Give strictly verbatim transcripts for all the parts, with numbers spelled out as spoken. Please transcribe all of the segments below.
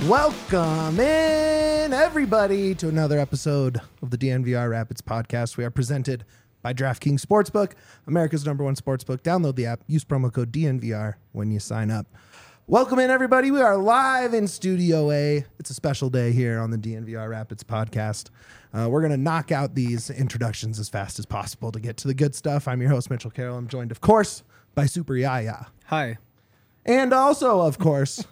Welcome in, everybody, to another episode of the D N V R Rapids podcast. We are presented by DraftKings Sportsbook, America's number one sportsbook. Download the app. Use promo code D N V R when you sign up. Welcome in, everybody. We are live in Studio A. It's a special day here on the D N V R Rapids podcast. Uh, we're going to knock out these introductions as fast as possible to get to the good stuff. I'm your host, Mitchell Carroll. I'm joined, of course, by Super Yaya. Hi. And also, of course...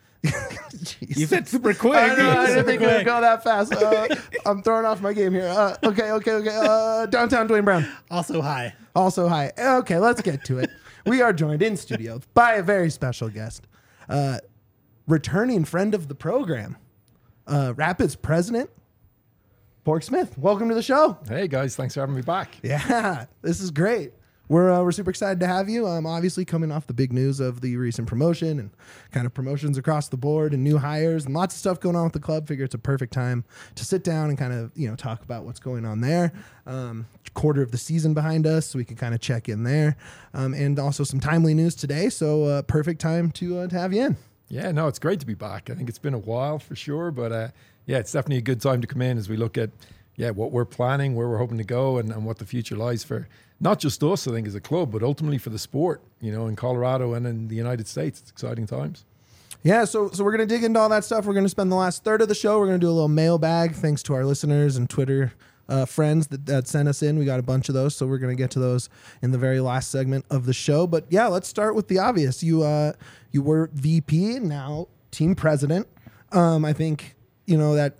You said super quick. I, know, I didn't think we would go that fast. Uh, I'm throwing off my game here. Uh, okay, okay, okay. Uh, downtown Dwayne Brown. Also hi. Also hi. Okay, let's get to it. We are joined in studio by a very special guest, uh, returning friend of the program, uh, Rapids president, Pork Smith. Welcome to the show. Hey guys, thanks for having me back. Yeah, this is great. We're uh, we're super excited to have you. Um, obviously coming off the big news of the recent promotion and kind of promotions across the board and new hires and lots of stuff going on with the club. Figure it's a perfect time to sit down and kind of you know talk about what's going on there. Um, quarter of the season behind us, so we can kind of check in there, um, and also some timely news today. So uh, perfect time to uh, to have you in. Yeah, no, it's great to be back. I think it's been a while for sure, but uh, yeah, it's definitely a good time to come in as we look at yeah what we're planning, where we're hoping to go, and, and what the future lies for. Not just us, I think, as a club, but ultimately for the sport, you know, in Colorado and in the United States. It's exciting times. Yeah, so so we're going to dig into all that stuff. We're going to spend the last third of the show. We're going to do a little mailbag, thanks to our listeners and Twitter uh, friends that, that sent us in. We got a bunch of those, so we're going to get to those in the very last segment of the show. But yeah, let's start with the obvious. You uh, you were V P, now team president. Um, I think, you know, that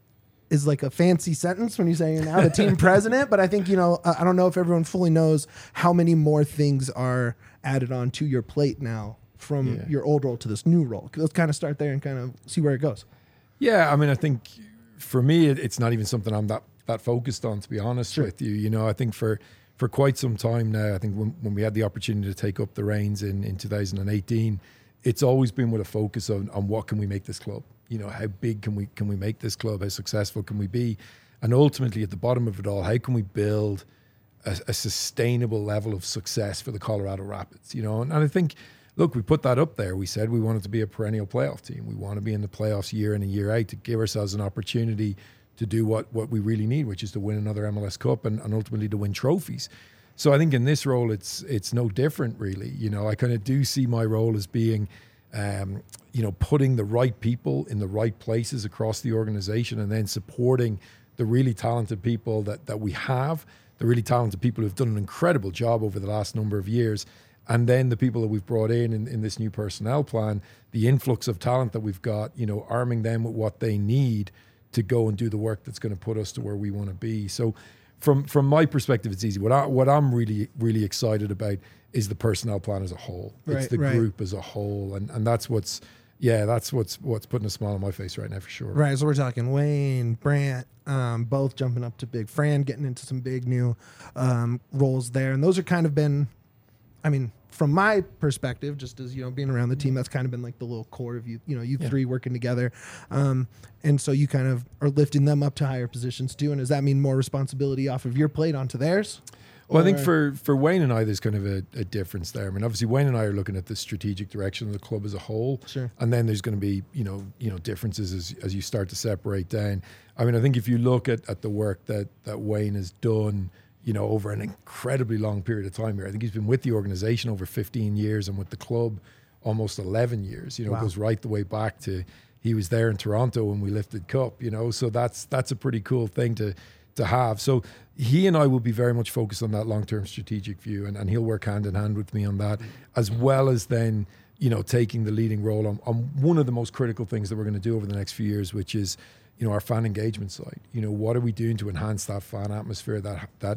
is like a fancy sentence when you say you're now the team president, but I think, you know, I don't know if everyone fully knows how many more things are added on to your plate now from yeah. your old role to this new role. Let's kind of start there and kind of see where it goes. Yeah, I mean, I think for me, it, it's not even something I'm that, that focused on, to be honest sure. with you. You know, I think for, for quite some time now, I think when, when we had the opportunity to take up the reins in, in two thousand eighteen, it's always been with a focus on, on what can we make this club. You know, how big can we can we make this club? How successful can we be? And ultimately, at the bottom of it all, how can we build a, a sustainable level of success for the Colorado Rapids? You know, and, and I think, look, we put that up there. We said we wanted to be a perennial playoff team. We want to be in the playoffs year in and year out to give ourselves an opportunity to do what, what we really need, which is to win another M L S Cup and, and ultimately to win trophies. So I think in this role, it's it's no different, really. You know, I kind of do see my role as being Um, you know, putting the right people in the right places across the organization and then supporting the really talented people that, that we have, the really talented people who've done an incredible job over the last number of years, and then the people that we've brought in, in in this new personnel plan, the influx of talent that we've got, you know, arming them with what they need to go and do the work that's going to put us to where we want to be. So from from my perspective, it's easy. What, I, what I'm really, really excited about is the personnel plan as a whole. It's right, the right. group as a whole. And, and that's what's, yeah, that's what's what's putting a smile on my face right now for sure. Right, so we're talking Wayne, Brant, um, both jumping up to big. Fran getting into some big new um, roles there. And those are kind of been, I mean, from my perspective, just as, you know, being around the team, that's kind of been like the little core of you, you know, you yeah. three working together. Um, and so you kind of are lifting them up to higher positions too. And does that mean more responsibility off of your plate onto theirs? Well, I think for, for Wayne and I, there's kind of a, a difference there. I mean, obviously, Wayne and I are looking at the strategic direction of the club as a whole. Sure. And then there's going to be, you know, you know, differences as, as you start to separate down. I mean, I think if you look at, at the work that, that Wayne has done, you know, over an incredibly long period of time here. I think he's been with the organization over fifteen years and with the club almost eleven years. You know, wow. It goes right the way back to he was there in Toronto when we lifted cup, you know, so that's that's a pretty cool thing to to have. So he and I will be very much focused on that long-term strategic view, and, and he'll work hand in hand with me on that, as well as then, you know, taking the leading role on, on one of the most critical things that we're going to do over the next few years, which is, you know, our fan engagement side. You know, what are we doing to enhance that fan atmosphere, that that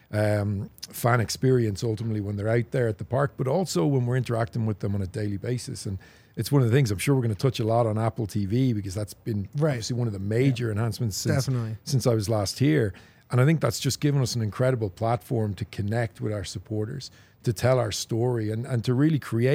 um, fan experience ultimately when they're out there at the park, but also when we're interacting with them on a daily basis. And it's one of the things I'm sure we're going to touch a lot on Apple T V, because that's been right. obviously one of the major yeah. enhancements since, since I was last here. And I think that's just given us an incredible platform to connect with our supporters, to tell our story, and, and to really create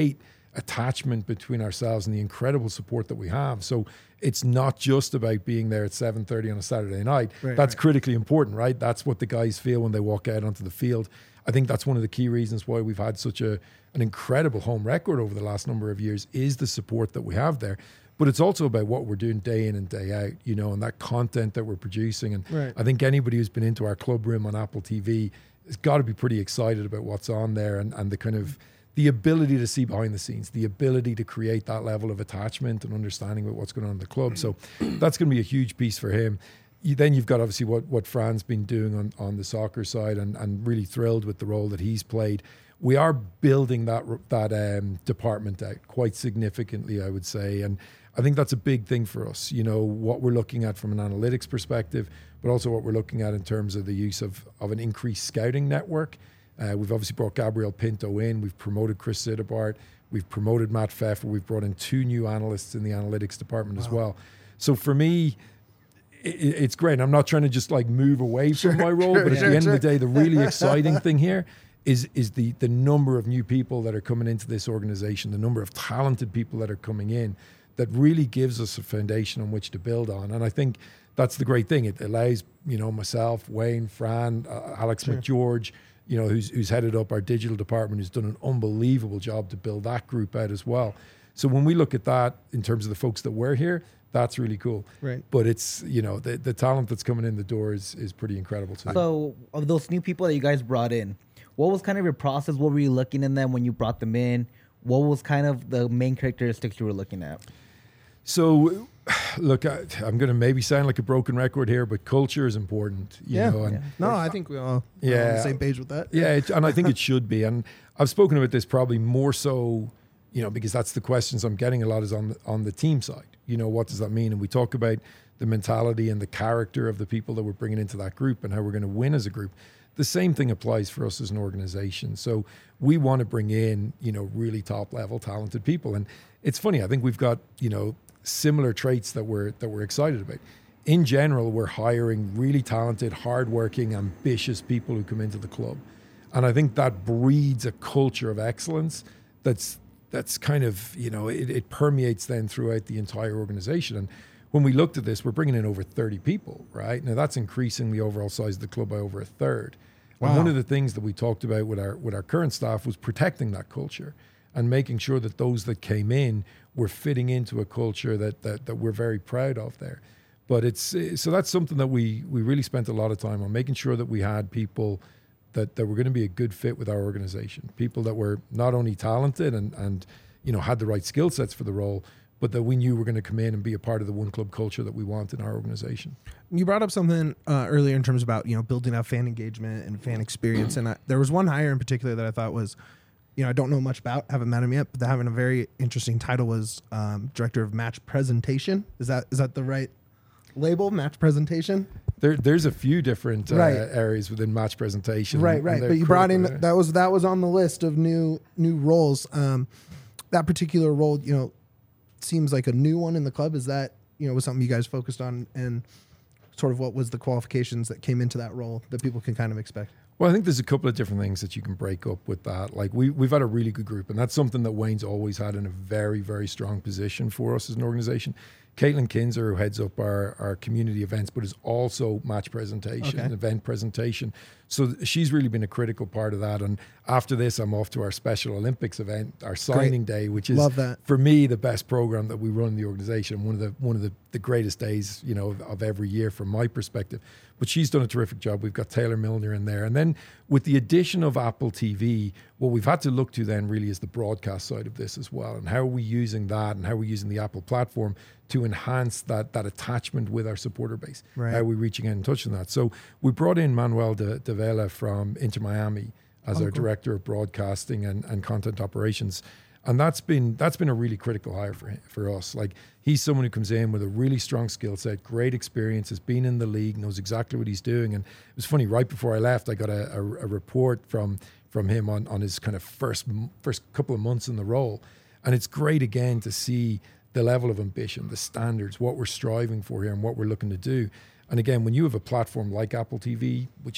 attachment between ourselves and the incredible support that we have. So it's not just about being there at seven thirty on a Saturday night. Right, that's right. critically important, right? That's what the guys feel when they walk out onto the field. I think that's one of the key reasons why we've had such a an incredible home record over the last number of years is the support that we have there. But it's also about what we're doing day in and day out, you know, and that content that we're producing. And Right. I think anybody who's been into our club room on Apple T V has got to be pretty excited about what's on there and, and the kind of the ability to see behind the scenes, the ability to create that level of attachment and understanding about what's going on in the club. So that's going to be a huge piece for him. You, then you've got obviously what, what Fran's been doing on, on the soccer side and, and really thrilled with the role that he's played. We are building that that um, department out quite significantly, I would say. And I think that's a big thing for us, you know, what we're looking at from an analytics perspective, but also what we're looking at in terms of the use of, of an increased scouting network. Uh, we've obviously brought Gabriel Pinto in. We've promoted Chris Siddebart. We've promoted Matt Pfeffer. We've brought in two new analysts in the analytics department Wow. as well. So for me, it, it's great. I'm not trying to just like move away Sure, from my role, sure, but at sure, the end sure. of the day, the really exciting thing here is is the the number of new people that are coming into this organization, the number of talented people that are coming in, that really gives us a foundation on which to build on. And I think that's the great thing. It allows, you know, myself, Wayne, Fran, uh, Alex Sure. McGeorge, you know, who's who's headed up our digital department, who's done an unbelievable job to build that group out as well. So when we look at that in terms of the folks that were here, that's really cool. Right. But it's, you know, the, the talent that's coming in the door is, is pretty incredible too. So, of those new people that you guys brought in, what was kind of your process? What were you looking in them when you brought them in? What was kind of the main characteristics you were looking at? So, look, I, I'm going to maybe sound like a broken record here, but culture is important, you Yeah. know. And Yeah. No, I think we all are on Yeah. the same page with that. yeah, it, and I think it should be. And I've spoken about this probably more so, you know, because that's the questions I'm getting a lot is on the, on the team side. You know, what does that mean? And we talk about the mentality and the character of the people that we're bringing into that group and how we're going to win as a group. The same thing applies for us as an organization. So we want to bring in, you know, really top level talented people. And it's funny, I think we've got, you know, similar traits that we're that we're excited about. In general, we're hiring really talented, hardworking, ambitious people who come into the club. And I think that breeds a culture of excellence that's that's kind of, you know, it, it permeates then throughout the entire organization. And when we looked at this, we're bringing in over thirty people, right? Now that's increasing the overall size of the club by over a third. And Wow. one of the things that we talked about with our with our current staff was protecting that culture and making sure that those that came in were fitting into a culture that that, that we're very proud of there. But it's so that's something that we we really spent a lot of time on, making sure that we had people that, that were going to be a good fit with our organization, people that were not only talented and, and you know had the right skill sets for the role, but that we knew were going to come in and be a part of the one club culture that we want in our organization. You brought up something uh, earlier in terms about, you know, building up fan engagement and fan experience. And I, there was one hire in particular that I thought was, you know, I don't know much about, haven't met him yet, but having a very interesting title was um, Director of Match Presentation. Is that is that the right label, Match Presentation? There, there's a few different uh, Right. areas within match presentation. Right, and right. they're But you brought in, critical, yeah. that was that was on the list of new new roles. Um, that particular role, you know, seems like a new one in the club. Is that, you know, was something you guys focused on, and sort of what was the qualifications that came into that role that people can kind of expect? Well, I think there's a couple of different things that you can break up with that. Like we, we've had a really good group, and that's something that Wayne's always had in a very, very strong position for us as an organization. Caitlin Kinzer, who heads up our, our community events, but is also match presentation, Okay. event presentation. So she's really been a critical part of that. And after this, I'm off to our Special Olympics event, our signing day, which is Love that. for me the best program that we run in the organization. One of the one of the, the greatest days, you know, of, of every year from my perspective. But she's done a terrific job. We've got Taylor Milner in there, and then with the addition of Apple T V, what we've had to look to then really is the broadcast side of this as well, and how are we using that, and how are we using the Apple platform to enhance that that attachment with our supporter base. Right. How are we reaching out and touching that? So we brought in Manuel de, de Vela from Inter Miami as Oh, our cool. director of broadcasting and, and content operations. And that's been that's been a really critical hire for him, for us. Like he's someone who comes in with a really strong skill set, great experience, has been in the league, knows exactly what he's doing. And it was funny, right before I left, I got a, a, a report from from him on, on his kind of first first couple of months in the role. And it's great again to see the level of ambition, the standards, what we're striving for here and what we're looking to do. And again, when you have a platform like Apple T V, which is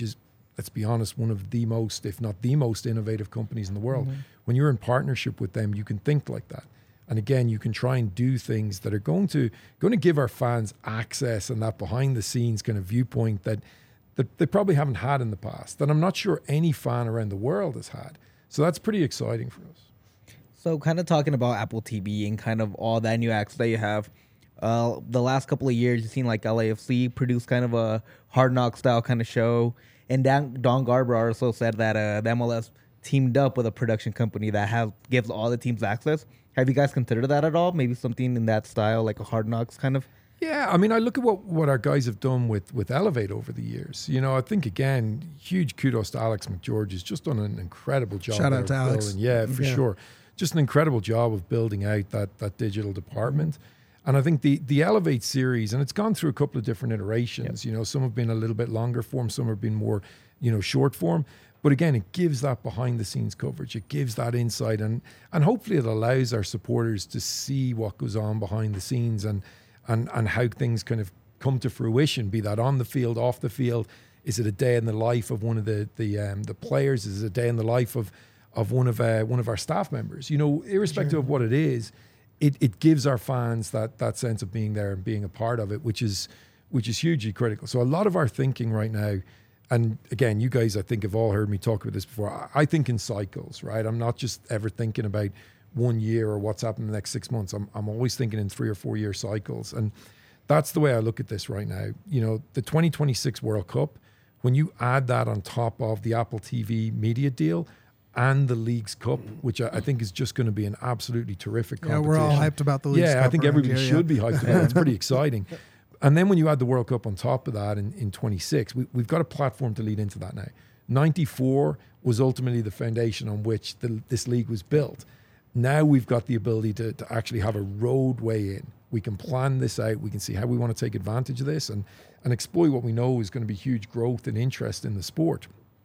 let's be honest, one of the most, if not the most innovative companies in the world. Mm-hmm. When you're in partnership with them, you can think like that. And again, you can try and do things that are going to going to give our fans access and that behind the scenes kind of viewpoint that, that they probably haven't had in the past, that I'm not sure any fan around the world has had. So that's pretty exciting for us. So kind of talking about Apple T V and kind of all that new access that you have, uh, the last couple of years, you've seen like L A F C produce kind of a Hard Knock style kind of show. And Dan, Don Garber also said that uh, the M L S teamed up with a production company that have gives all the teams access. Have you guys considered that at all? Maybe something in that style, like a Hard Knocks kind of? Yeah, I mean, I look at what, what our guys have done with, with Elevate over the years. You know, I think, again, huge kudos to Alex McGeorge. He's just done an incredible job. Shout out to building. Alex. Yeah, for yeah. sure. Just an incredible job of building out that that digital department. And I think the the Elevate series, and it's gone through a couple of different iterations. Yep. You know, some have been a little bit longer form, some have been more, you know, short form. But again, it gives that behind the scenes coverage. It gives that insight, and and hopefully it allows our supporters to see what goes on behind the scenes and and and how things kind of come to fruition, be that on the field, off the field. Is it a day in the life of one of the the um, the players? Is it a day in the life of of one of uh, one of our staff members? You know, irrespective sure. of what it is, it it gives our fans that that sense of being there and being a part of it, which is which is hugely critical. So a lot of our thinking right now. And again, you guys, I think, have all heard me talk about this before. I think in cycles, right? I'm not just ever thinking about one year or what's happening in the next six months. I'm I'm always thinking in three or four year cycles. And that's the way I look at this right now. You know, the twenty twenty-six World Cup, when you add that on top of the Apple T V media deal and the League's Cup, which I, I think is just going to be an absolutely terrific competition. Yeah, we're all hyped about the League's yeah, Cup. Yeah, I think everybody here, should yeah. be hyped about it. It's pretty exciting. And then when you add the World Cup on top of that in, in twenty-six, we, we've got a platform to lead into that now. ninety-four was ultimately the foundation on which the, this league was built. Now we've got the ability to, to actually have a roadway in. We can plan this out. We can see how we want to take advantage of this and, and exploit what we know is going to be huge growth and interest in the sport.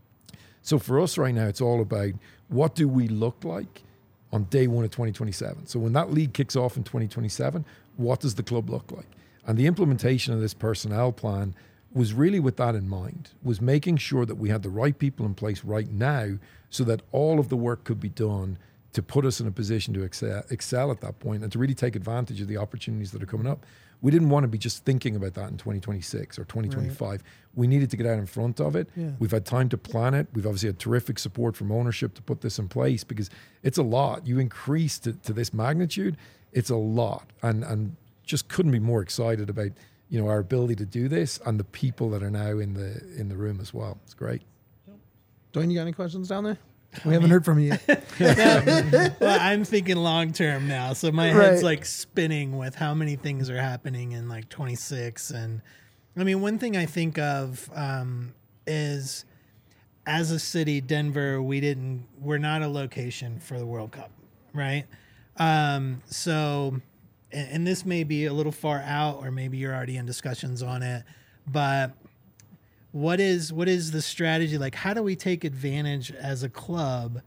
So for us right now, it's all about what do we look like on day one of twenty twenty-seven. So when that league kicks off in twenty twenty-seven, what does the club look like? And the implementation of this personnel plan was really with that in mind, was making sure that we had the right people in place right now so that all of the work could be done to put us in a position to excel, excel at that point and to really take advantage of the opportunities that are coming up. We didn't want to be just thinking about that in twenty twenty-six or twenty twenty-five. Right. We needed to get out in front of it. Yeah. We've had time to plan it. We've obviously had terrific support from ownership to put this in place because it's a lot. You increase to, to this magnitude, it's a lot. And and just couldn't be more excited about, you know, our ability to do this and the people that are now in the in the room as well. It's great. Dwayne, you got any questions down there? We haven't heard from you yet. No, well, I'm thinking long term now, so my Right. head's like spinning with how many things are happening in like twenty-six. And I mean, one thing I think of um, is, as a city, Denver, we didn't, we're not a location for the World Cup, right? Um, so. And this may be a little far out, or maybe you're already in discussions on it, but what is what is the strategy? Like, how do we take advantage as a club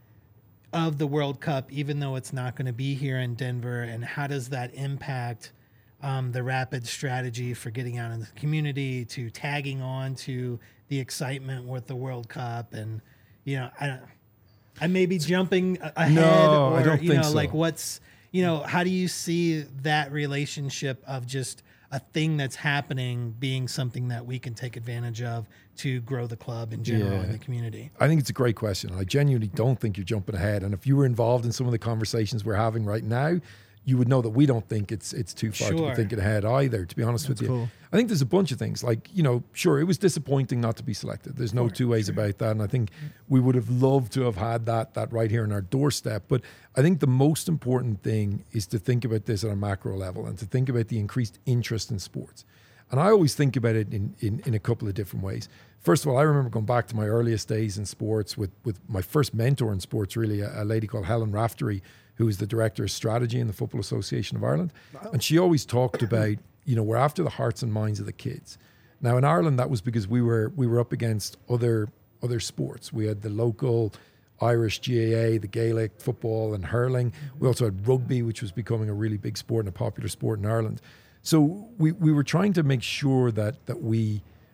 of the World Cup, even though it's not going to be here in Denver? And how does that impact um, the Rapid strategy for getting out in the community, to tagging on to the excitement with the World Cup? And, you know, I, I may be jumping ahead, No, or, I don't you think know, so. like what's... You know, how do you see that relationship of just a thing that's happening being something that we can take advantage of to grow the club in general Yeah. in the community? I think it's a great question. I genuinely don't think you're jumping ahead. And if you were involved in some of the conversations we're having right now, you would know that we don't think it's it's too far to Sure. be thinking ahead either, to be honest That's with you. cool. I think there's a bunch of things like, you know, sure, it was disappointing not to be selected. There's no Sure, two ways sure. about that. And I think we would have loved to have had that that right here on our doorstep. But I think the most important thing is to think about this at a macro level and to think about the increased interest in sports. And I always think about it in, in, in a couple of different ways. First of all, I remember going back to my earliest days in sports with, with my first mentor in sports, really, a, a lady called Helen Raftery, who is the Director of Strategy in the Football Association of Ireland. And she always talked about, you know, we're after the hearts and minds of the kids. Now, in Ireland, that was because we were we were up against other other sports. We had the local Irish G A A, the Gaelic, football and hurling. We also had rugby, which was becoming a really big sport and a popular sport in Ireland. So we, we were trying to make sure that that we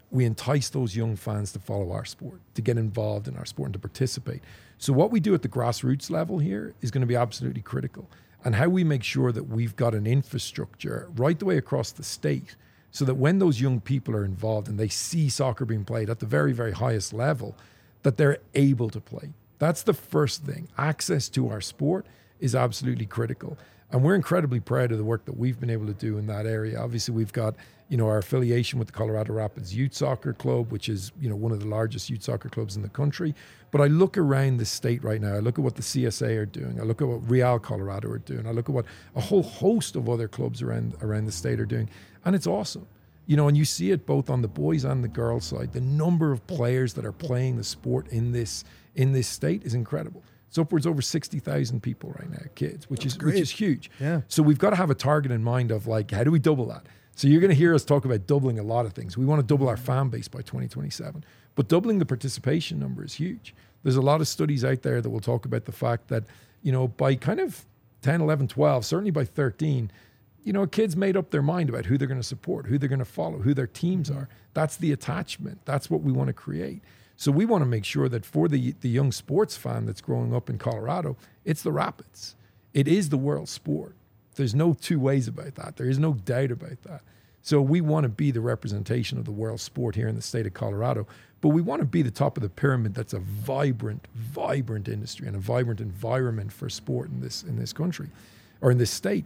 we entice those young fans to follow our sport, to get involved in our sport and to participate. So what we do at the grassroots level here is going to be absolutely critical. And how we make sure that we've got an infrastructure right the way across the state so that when those young people are involved and they see soccer being played at the very, very highest level, that they're able to play. That's the first thing. Access to our sport is absolutely critical. And we're incredibly proud of the work that we've been able to do in that area. Obviously, we've got, you know, our affiliation with the Colorado Rapids Youth Soccer Club, which is, you know, one of the largest youth soccer clubs in the country. But I look around the state right now. I look at what the C S A are doing. I look at what Real Colorado are doing. I look at what a whole host of other clubs around around the state are doing. And it's awesome. You know, and you see it both on the boys and the girls side. The number of players that are playing the sport in this in this state is incredible. It's upwards over sixty thousand people right now, kids, which That's is great. which is huge. Yeah. So we've got to have a target in mind of like, how do we double that? So you're going to hear us talk about doubling a lot of things. We want to double our fan base by twenty twenty-seven, but doubling the participation number is huge. There's a lot of studies out there that will talk about the fact that, you know, by kind of ten, eleven, twelve, certainly by thirteen, you know, kids made up their mind about who they're going to support, who they're going to follow, who their teams are. That's the attachment. That's what we want to create. So we want to make sure that for the the young sports fan that's growing up in Colorado, it's the Rapids. It is the world sport. There's no two ways about that. There is no doubt about that. So we want to be the representation of the world sport here in the state of Colorado, but we want to be the top of the pyramid that's a vibrant, vibrant industry and a vibrant environment for sport in this in this country or in this state.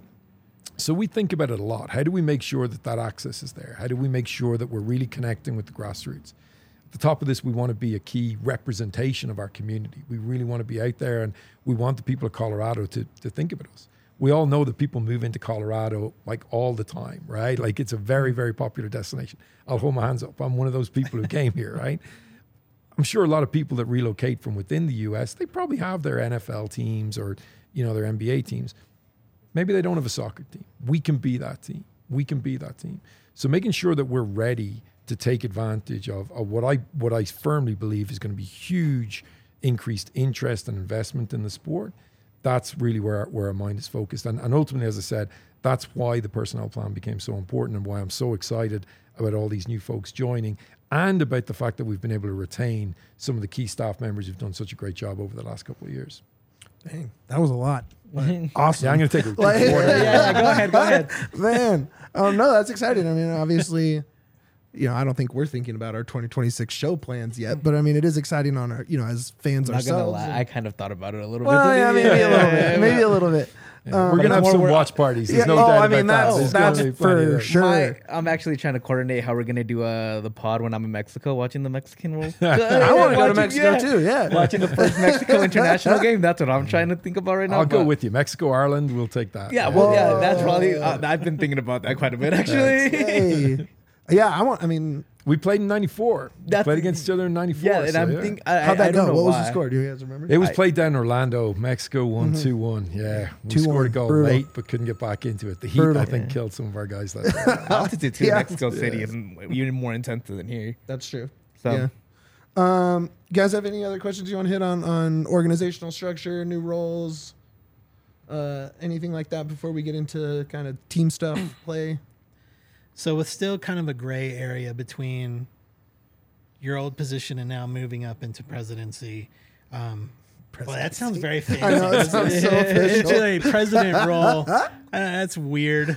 So we think about it a lot. How do we make sure that that access is there? How do we make sure that we're really connecting with the grassroots? At the top of this, we want to be a key representation of our community. We really want to be out there, and we want the people of Colorado to, to think about us. We all know that people move into Colorado like all the time, right? Like it's a very, very popular destination. I'll hold my hands up. I'm one of those people who came here, right? I'm sure a lot of people that relocate from within the U S, they probably have their N F L teams or, you know, their N B A teams. Maybe they don't have a soccer team. We can be that team. We can be that team. So making sure that we're ready to take advantage of, of what I what I firmly believe is going to be huge increased interest and investment in the sport. That's really where, where our mind is focused. And, and ultimately, as I said, that's why the personnel plan became so important and why I'm so excited about all these new folks joining and about the fact that we've been able to retain some of the key staff members who've done such a great job over the last couple of years. Dang, that was a lot. Awesome. Yeah, I'm going to take a Like- water. yeah, yeah, go ahead, go ahead. Man, oh no, that's exciting. I mean, obviously, you know, I don't think we're thinking about our twenty twenty-six show plans yet, but I mean, it is exciting on our, you know, as fans I'm not gonna ourselves. lie, I kind of thought about it a little well, bit. yeah, maybe a little bit, maybe a little bit. Yeah. Um, We're going to have more some we're- watch parties. There's yeah, no oh, doubt I mean, about that's that. There's that's gonna be plenty of for that. sure. My, I'm actually trying to coordinate how we're gonna do uh, the pod when I'm in Mexico, watching the Mexican World. I want to go to Watching- Mexico yeah. too. Yeah, Watching the first Mexico international game. That's what I'm trying to think about right now. I'll go but- with you. Mexico, Ireland, we'll take that. Yeah, well, yeah, that's Whoa. probably. Uh, I've been thinking about that quite a bit, actually. Hey. Yeah, I want. I mean, We played in ninety-four. We That's- played against each other in ninety-four. yeah, and so, I'm yeah. think. I, how'd I, I that don't go? know What was why. the score? Do you guys remember? It was I- played down in Orlando. Mexico won two one. Yeah. We two scored a one. goal Brutal. late, but couldn't get back into it. The heat, Brutal. I think, Yeah. killed some of our guys that day. Altitude too Yeah. in Mexico City is even more intense than here. That's true. So Yeah. Um, you guys have any other questions you want to hit on on organizational structure, new roles, uh, anything like that before we get into kind of team stuff, play? So with still kind of a gray area between your old position and now moving up into presidency. Um, well, that sounds very fancy. I know, it sounds so official. Into a president role. Uh, that's weird.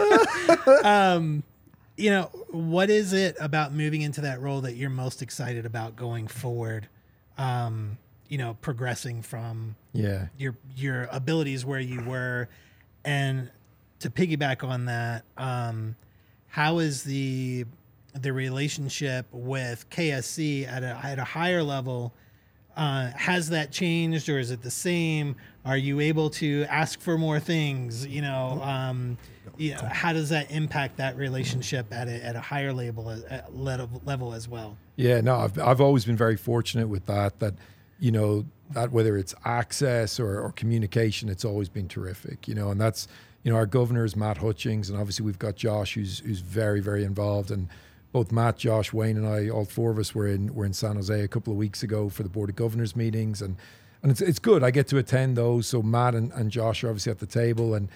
um, you know, what is it about moving into that role that you're most excited about going forward? Um, you know, progressing from Yeah. your your abilities where you were, and to piggyback on that, um, how is the the relationship with K S C at a at a higher level? Uh, has that changed, or is it the same? Are you able to ask for more things? You know, um, you know, how does that impact that relationship at a at a higher level at level level as well? Yeah, no, I've I've always been very fortunate with that. That you know that whether it's access or, or communication, it's always been terrific. You know, and that's you know our governor is Matt Hutchings, and obviously we've got Josh, who's who's very very involved. And both Matt, Josh, Wayne, and I, all four of us were in were in San Jose a couple of weeks ago for the Board of Governors meetings, and and it's it's good. I get to attend those. So Matt and, and Josh are obviously at the table, and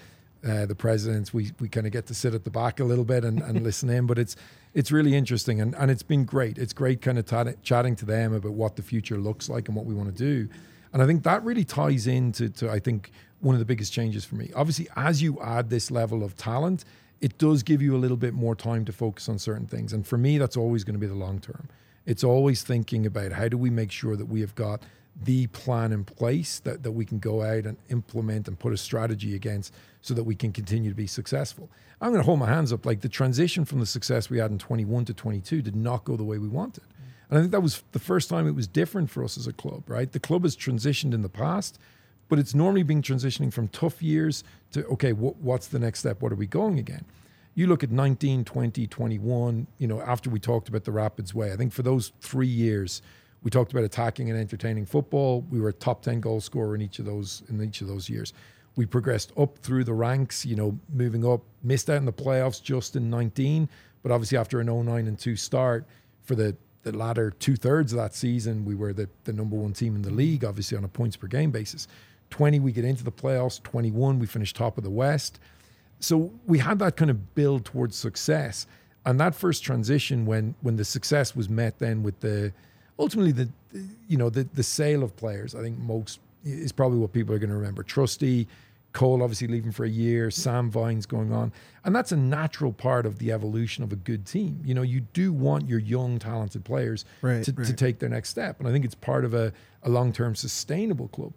uh, the presidents. We we kind of get to sit at the back a little bit and, and listen in, but it's it's really interesting and, and it's been great. It's great kind of t- chatting to them about what the future looks like and what we want to do. And I think that really ties into, to, I think, one of the biggest changes for me. Obviously, as you add this level of talent, it does give you a little bit more time to focus on certain things. And for me, that's always going to be the long term. It's always thinking about how do we make sure that we have got the plan in place that, that we can go out and implement and put a strategy against so that we can continue to be successful. I'm going to hold my hands up. Like the transition from the success we had in twenty-one to twenty-two did not go the way we wanted. And I think that was the first time it was different for us as a club, right? The club has transitioned in the past, but it's normally been transitioning from tough years to, okay, wh- what's the next step? What are we going again? You look at nineteen, twenty, twenty-one, you know, after we talked about the Rapids way, I think for those three years, we talked about attacking and entertaining football. We were a top ten goal scorer in each of those in each of those years. We progressed up through the ranks, you know, moving up, missed out in the playoffs just in nineteen, but obviously after an oh nine and two start, for the, the latter two-thirds of that season, we were the, the number one team in the league, obviously on a points per game basis. twenty, we get into the playoffs. twenty-one, we finished top of the West. So we had that kind of build towards success. And that first transition when when the success was met then with the ultimately the you know the the sale of players, I think most is probably what people are going to remember. Trusty, Cole obviously leaving for a year, Sam Vines going on. And that's a natural part of the evolution of a good team. You know, you do want your young, talented players Right, to, right. to take their next step. And I think it's part of a, a long-term sustainable club.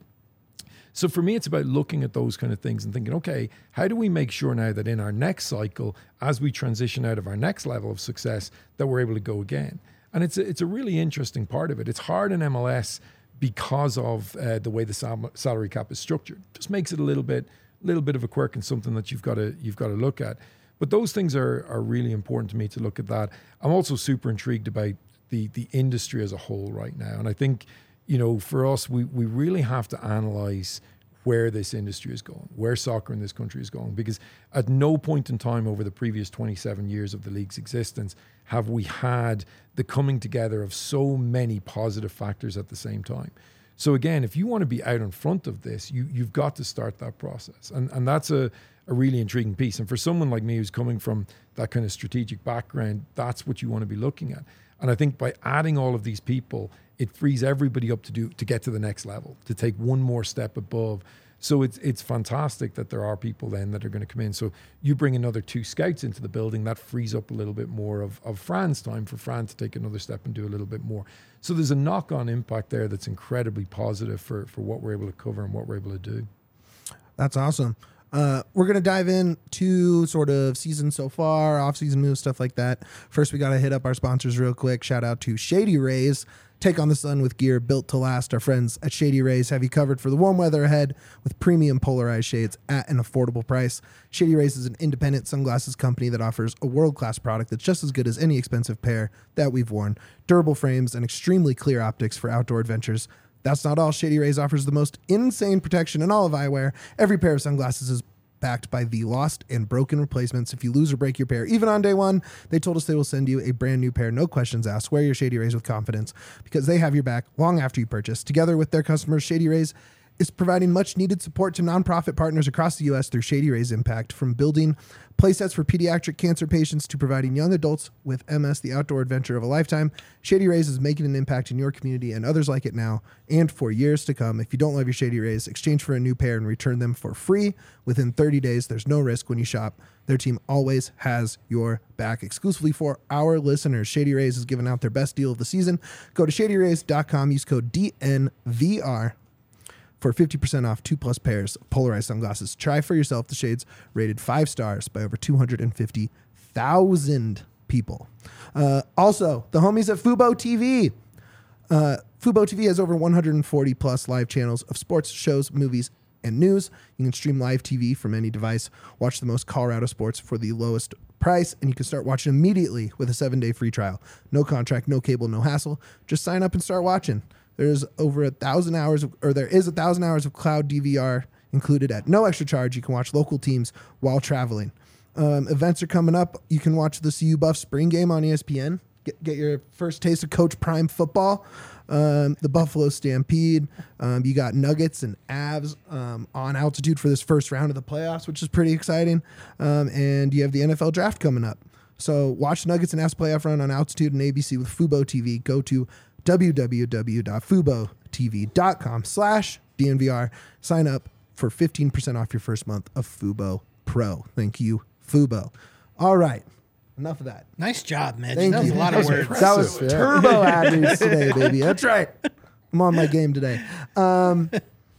So for me, it's about looking at those kind of things and thinking, okay, how do we make sure now that in our next cycle, as we transition out of our next level of success, that we're able to go again? And it's a, it's a really interesting part of it. It's hard in M L S because of uh, the way the sal- salary cap is structured. Just makes it a little bit, little bit of a quirk and something that you've got to you've got to look at. But those things are are really important to me to look at that. I'm also super intrigued about the the industry as a whole right now, and I think, you know, for us, we we really have to analyze where this industry is going, where soccer in this country is going, because at no point in time over the previous twenty-seven years of the league's existence have we had the coming together of so many positive factors at the same time. So again, if you want to be out in front of this, you, you've got to start that process. And and that's a, a really intriguing piece. And for someone like me who's coming from that kind of strategic background, that's what you want to be looking at. And I think by adding all of these people, it frees everybody up to do to get to the next level, to take one more step above. So it's it's fantastic that there are people then that are going to come in. So you bring another two scouts into the building, that frees up a little bit more of, of Fran's time for Fran to take another step and do a little bit more. So there's a knock-on impact there that's incredibly positive for, for what we're able to cover and what we're able to do. That's awesome. Uh, we're going to dive into sort of season so far, off-season moves, stuff like that. First, we got to hit up our sponsors real quick. Shout out to Shady Rays. Take on the sun with gear built to last. Our friends at Shady Rays have you covered for the warm weather ahead with premium polarized shades at an affordable price. Shady Rays is an independent sunglasses company that offers a world-class product that's just as good as any expensive pair that we've worn. Durable frames and extremely clear optics for outdoor adventures. That's not all. Shady Rays offers the most insane protection in all of eyewear. Every pair of sunglasses is backed by the lost and broken replacements. If you lose or break your pair, even on day one, they told us they will send you a brand new pair, no questions asked. Wear your Shady Rays with confidence because they have your back long after you purchase. Together with their customers, Shady Rays is providing much needed support to nonprofit partners across the U S through Shady Rays Impact, from building playsets for pediatric cancer patients to providing young adults with M S the outdoor adventure of a lifetime. Shady Rays is making an impact in your community and others like it now and for years to come. If you don't love your Shady Rays, exchange for a new pair and return them for free within thirty days. There's no risk when you shop. Their team always has your back. Exclusively for our listeners, Shady Rays is giving out their best deal of the season. Go to shady rays dot com, use code D N V R for fifty percent off two plus pairs of polarized sunglasses. Try for yourself the shades rated five stars by over two hundred fifty thousand people. Uh, also, the homies at Fubo T V. Uh, Fubo T V has over one hundred forty plus live channels of sports, shows, movies, and news. You can stream live T V from any device, watch the most Colorado sports for the lowest price, and you can start watching immediately with a seven-day free trial. No contract, no cable, no hassle. Just sign up and start watching. There's over a thousand hours, of, or there is a thousand hours of cloud D V R included at no extra charge. You can watch local teams while traveling. Um, events are coming up. You can watch the C U Buff spring game on E S P N. get, get your first taste of Coach Prime football. Um, the Buffalo Stampede. Um, you got Nuggets and Avs um, on altitude for this first round of the playoffs, which is pretty exciting. Um, and you have the N F L draft coming up. So watch Nuggets and Avs playoff run on altitude and A B C with Fubo T V. Go to www.fubotv.com slash DNVR. Sign up for fifteen percent off your first month of Fubo Pro. Thank you, Fubo. All right. Enough of that. Nice job, Mitch. Thank that was you. a lot of words. That was Yeah. turbo ad news today, baby. That's right. I'm on my game today. Um,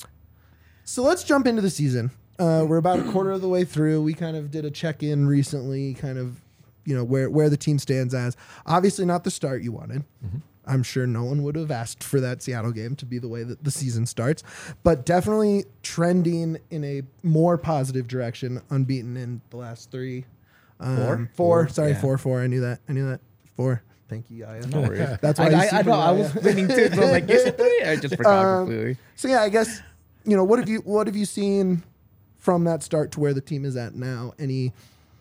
so let's jump into the season. Uh, we're about a quarter of the way through. We kind of did a check-in recently, kind of, you know, where, where the team stands as. Obviously not the start you wanted. Mm-hmm. I'm sure no one would have asked for that Seattle game to be the way that the season starts, but definitely trending in a more positive direction, unbeaten in the last three. Um, Four? Four. Four, Sorry, yeah. four, four. I knew that. I knew that. Four. Thank you, Yaya. No worries. That's why I, you I, see I for know. I Yaya. was spinning too. So I was like, is it three? I just forgot Um, completely. So yeah, I guess, you know, what have you what have you seen from that start to where the team is at now? Any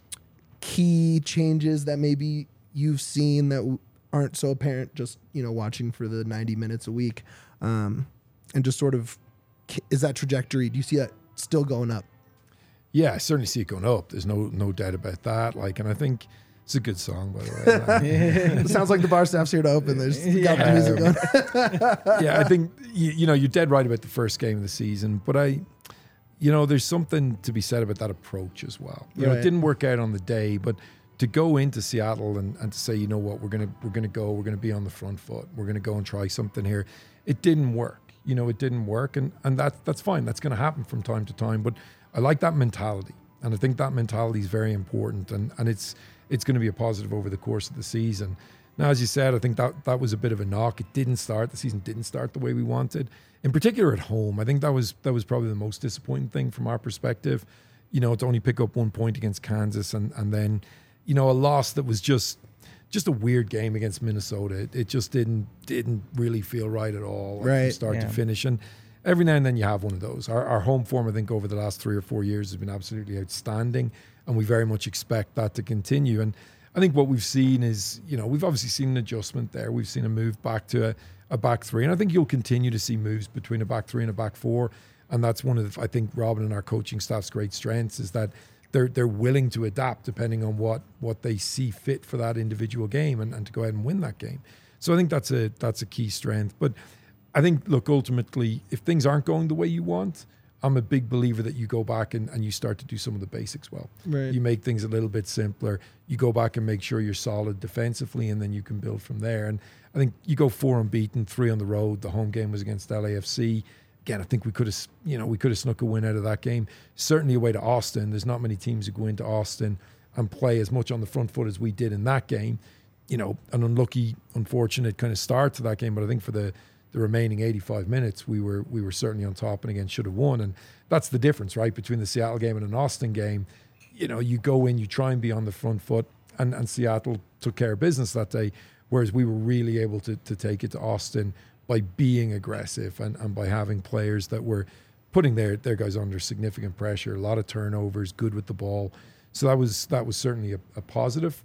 key changes that maybe you've seen that w- aren't so apparent just, you know, watching for the ninety minutes a week, um, and just sort of, is that trajectory? Do you see that still going up? Yeah, I certainly see it going up. There's no no doubt about that. Like, and I think it's a good song, by the way. It sounds like the bar staff's here to open. There's got the Yeah. music going. Yeah, I think you, you know you're dead right about the first game of the season, but I, you know, there's something to be said about that approach as well. You know, Right. it didn't work out on the day, but to go into Seattle and, and to say, you know what, we're gonna we're gonna go, we're gonna be on the front foot, we're gonna go and try something here. It didn't work. You know, it didn't work, and and that that's fine. That's going to happen from time to time, but I like that mentality, and I think that mentality is very important, and and it's it's going to be a positive over the course of the season. Now, as you said, I think that that was a bit of a knock. It didn't start. The season didn't start the way we wanted, in particular at home. I think that was that was probably the most disappointing thing from our perspective. You know, to only pick up one point against Kansas, and and then, you know, a loss that was just just a weird game against Minnesota. It, it just didn't didn't really feel right at all, like, Right. from start Yeah. to finish. And every now and then you have one of those. Our, our home form, I think, over the last three or four years has been absolutely outstanding, and we very much expect that to continue. And I think what we've seen is, you know, we've obviously seen an adjustment there. We've seen a move back to a, a back three, and I think you'll continue to see moves between a back three and a back four. And that's one of the, I think, Robin and our coaching staff's great strengths is that they're they're willing to adapt depending on what what they see fit for that individual game, and, and to go ahead and win that game. So I think that's a that's a key strength. But I think, look, ultimately, if things aren't going the way you want, I'm a big believer that you go back and, and you start to do some of the basics well. Right. You make things a little bit simpler. You go back and make sure you're solid defensively, and then you can build from there. And I think you go four unbeaten, three on the road. The home game was against L A F C. Again, I think we could have, you know, we could have snuck a win out of that game. Certainly away to Austin. There's not many teams who go into Austin and play as much on the front foot as we did in that game. You know, an unlucky, unfortunate kind of start to that game, but I think for the the remaining eighty-five minutes, we were we were certainly on top, and again should have won. And that's the difference, right, between the Seattle game and an Austin game. You know, you go in, you try and be on the front foot, and, and Seattle took care of business that day, whereas we were really able to to take it to Austin by being aggressive and, and by having players that were putting their, their guys under significant pressure, a lot of turnovers, good with the ball. So that was that was certainly a, a positive.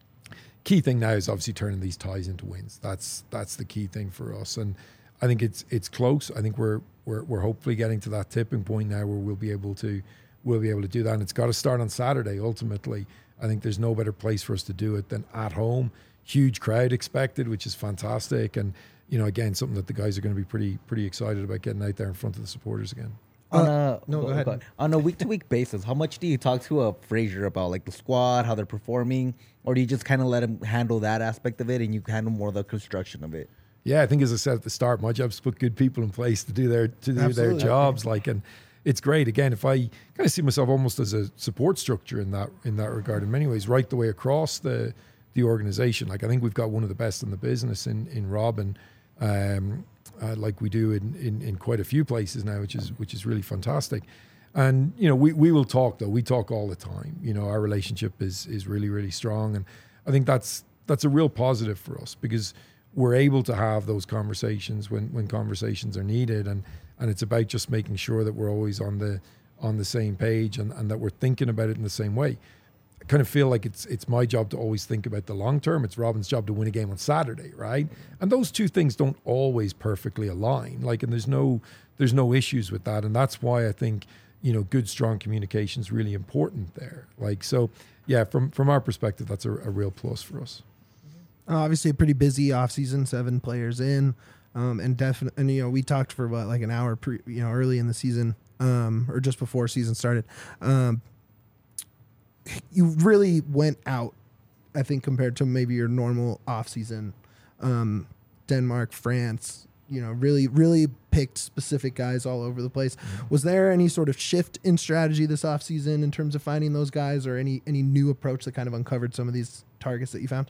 Key thing now is obviously turning these ties into wins. That's that's the key thing for us, and I think it's it's close. I think we're we're we're hopefully getting to that tipping point now where we'll be able to we'll be able to do that. And it's got to start on Saturday. Ultimately, I think there's no better place for us to do it than at home. Huge crowd expected, which is fantastic, and you know, again, something that the guys are going to be pretty pretty excited about getting out there in front of the supporters again. On Uh, a no, go ahead. On a week to week basis, how much do you talk to a Frazier about like the squad, how they're performing, or do you just kind of let him handle that aspect of it and you handle more the construction of it? Yeah, I think as I said at the start, my job is to put good people in place to do their to do Absolutely. their jobs. Like, and it's great. Again, if I kind of see myself almost as a support structure in that in that regard, in many ways, right the way across the the organization. Like, I think we've got one of the best in the business in in Robin. Um, uh, like we do in, in, in quite a few places now, which is which is really fantastic. And you know, we, we will talk though. We talk all the time. You know, our relationship is is really really strong, and I think that's that's a real positive for us because we're able to have those conversations when, when conversations are needed, and and it's about just making sure that we're always on the on the same page and, and that we're thinking about it in the same way. I kind of feel like it's it's my job to always think about the long term. It's Robin's job to win a game on Saturday, right? And those two things don't always perfectly align. Like, and there's no there's no issues with that, and that's why I think, you know, good, strong communication is really important there. Like, so yeah, from from our perspective, that's a, a real plus for us. Obviously, a pretty busy off season, seven players in, um, and definitely, and you know, we talked for what, like an hour, pre, you know, early in the season, um, or just before season started. Um, you really went out, I think, compared to maybe your normal off season. Um, Denmark, France, you know, really, really picked specific guys all over the place. Mm-hmm. Was there any sort of shift in strategy this off season in terms of finding those guys, or any any new approach that kind of uncovered some of these targets that you found?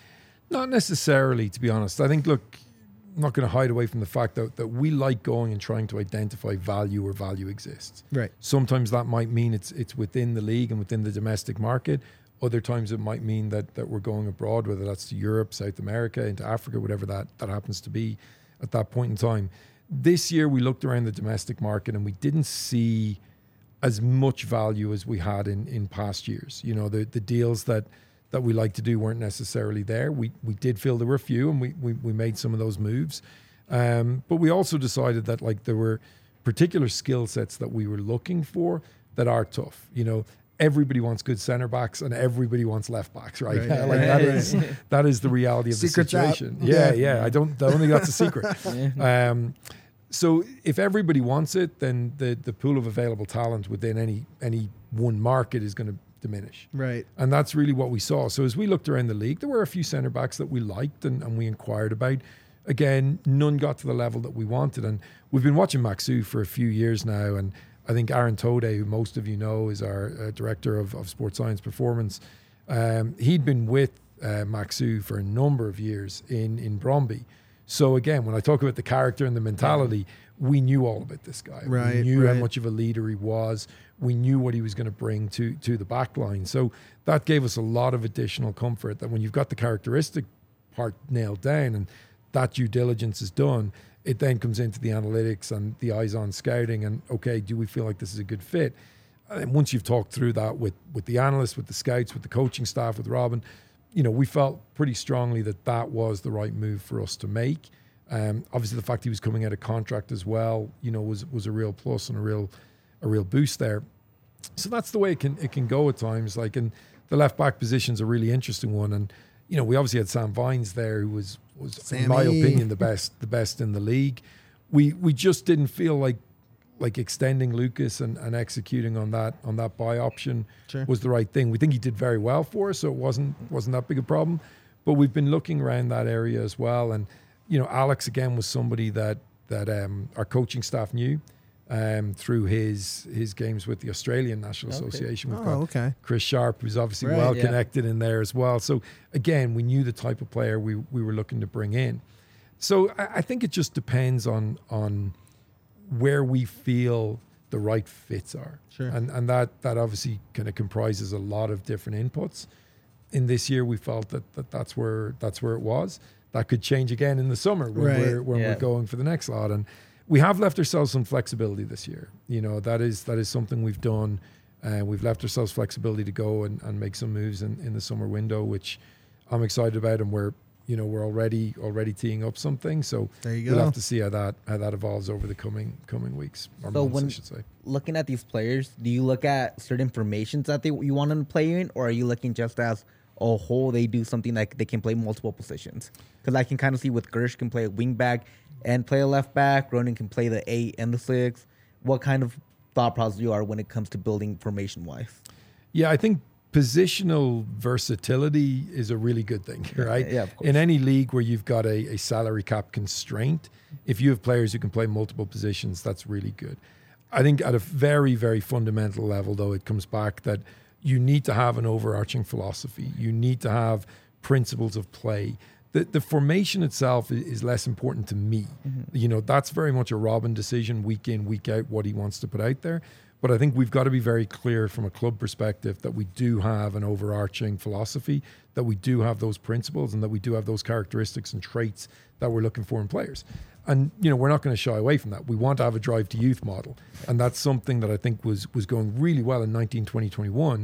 Not necessarily, to be honest. I think, look, I'm not going to hide away from the fact that, that we like going and trying to identify value where value exists. Right. Sometimes that might mean it's it's within the league and within the domestic market. Other times it might mean that that we're going abroad, whether that's to Europe, South America, into Africa, whatever that, that happens to be at that point in time. This year we looked around the domestic market and we didn't see as much value as we had in, in past years. You know, the, the deals that that we like to do weren't necessarily there. We we did feel there were a few, and we we, we made some of those moves. Um, but we also decided that, like, there were particular skill sets that we were looking for that are tough. You know, everybody wants good center backs and everybody wants left backs, right? Right. Like that is that is the reality of Secret's the situation. Yeah, yeah, yeah. I don't I don't think that's a secret. Um, so if everybody wants it, then the the pool of available talent within any any one market is going to diminish. Right. And that's really what we saw. So as we looked around the league, there were a few centre backs that we liked and, and we inquired about. Again, none got to the level that we wanted. And we've been watching Maxu for a few years now. And I think Aaron Tode, who most of you know is our uh, director of, of sports science performance, um, he'd been with uh, Maxu for a number of years in, in Bromby. So again, when I talk about the character and the mentality, we knew all about this guy. Right, we knew right. how much of a leader he was. We knew what he was going to bring to to the back line. So that gave us a lot of additional comfort that when you've got the characteristic part nailed down and that due diligence is done, it then comes into the analytics and the eyes on scouting and, okay, do we feel like this is a good fit? And once you've talked through that with, with the analysts, with the scouts, with the coaching staff, with Robin, you know, we felt pretty strongly that that was the right move for us to make. Um, obviously, the fact he was coming out of contract as well, you know, was was a real plus and a real a real boost there. So that's the way it can it can go at times. Like, and the left back position's a really interesting one. And you know, we obviously had Sam Vines there, who was was Sammy. in my opinion the best the best in the league. We we just didn't feel like like extending Lucas and, and executing on that on that buy option Sure. was the right thing. We think he did very well for us, so it wasn't wasn't that big a problem. But we've been looking around that area as well. And you know, Alex again was somebody that that um, our coaching staff knew um, through his his games with the Australian National Okay. Association. We've Oh, got okay. Chris Sharp, who's obviously Right, well yeah. connected in there as well. So again, we knew the type of player we we were looking to bring in. So I, I think it just depends on on where we feel the right fits are. Sure. And and that that obviously kind of comprises a lot of different inputs. In this year, we felt that, that that's where that's where it was. That could change again in the summer when Right. we're when Yeah. we're going for the next lot. And we have left ourselves some flexibility this year. You know, that is that is something we've done. Uh, we've left ourselves flexibility to go and, and make some moves in, in the summer window, which I'm excited about. And we're you know we're already already teeing up something. So There you we'll go. have to see how that how that evolves over the coming coming weeks or So months, when- I should say. Looking at these players, do you look at certain formations that they you want them to play in, or are you looking just as a whole they do something like they can play multiple positions? Because I can kind of see with Gersh can play a wing back and play a left back. Ronan can play the eight and the six. What kind of thought process you are when it comes to building formation wise? Yeah, I think positional versatility is a really good thing, right? yeah, of course. In any league where you've got a, a salary cap constraint, if you have players who can play multiple positions, that's really good. I think at a very, very fundamental level, though, it comes back that you need to have an overarching philosophy. You need to have principles of play. The, the formation itself is, is less important to me. Mm-hmm. You know, that's very much a Robin decision week in, week out, what he wants to put out there. But I think we've got to be very clear from a club perspective that we do have an overarching philosophy, that we do have those principles, and that we do have those characteristics and traits that we're looking for in players. And, you know, we're not going to shy away from that. We want to have a drive to youth model. And that's something that I think was was going really well in nineteen, twenty, twenty-one,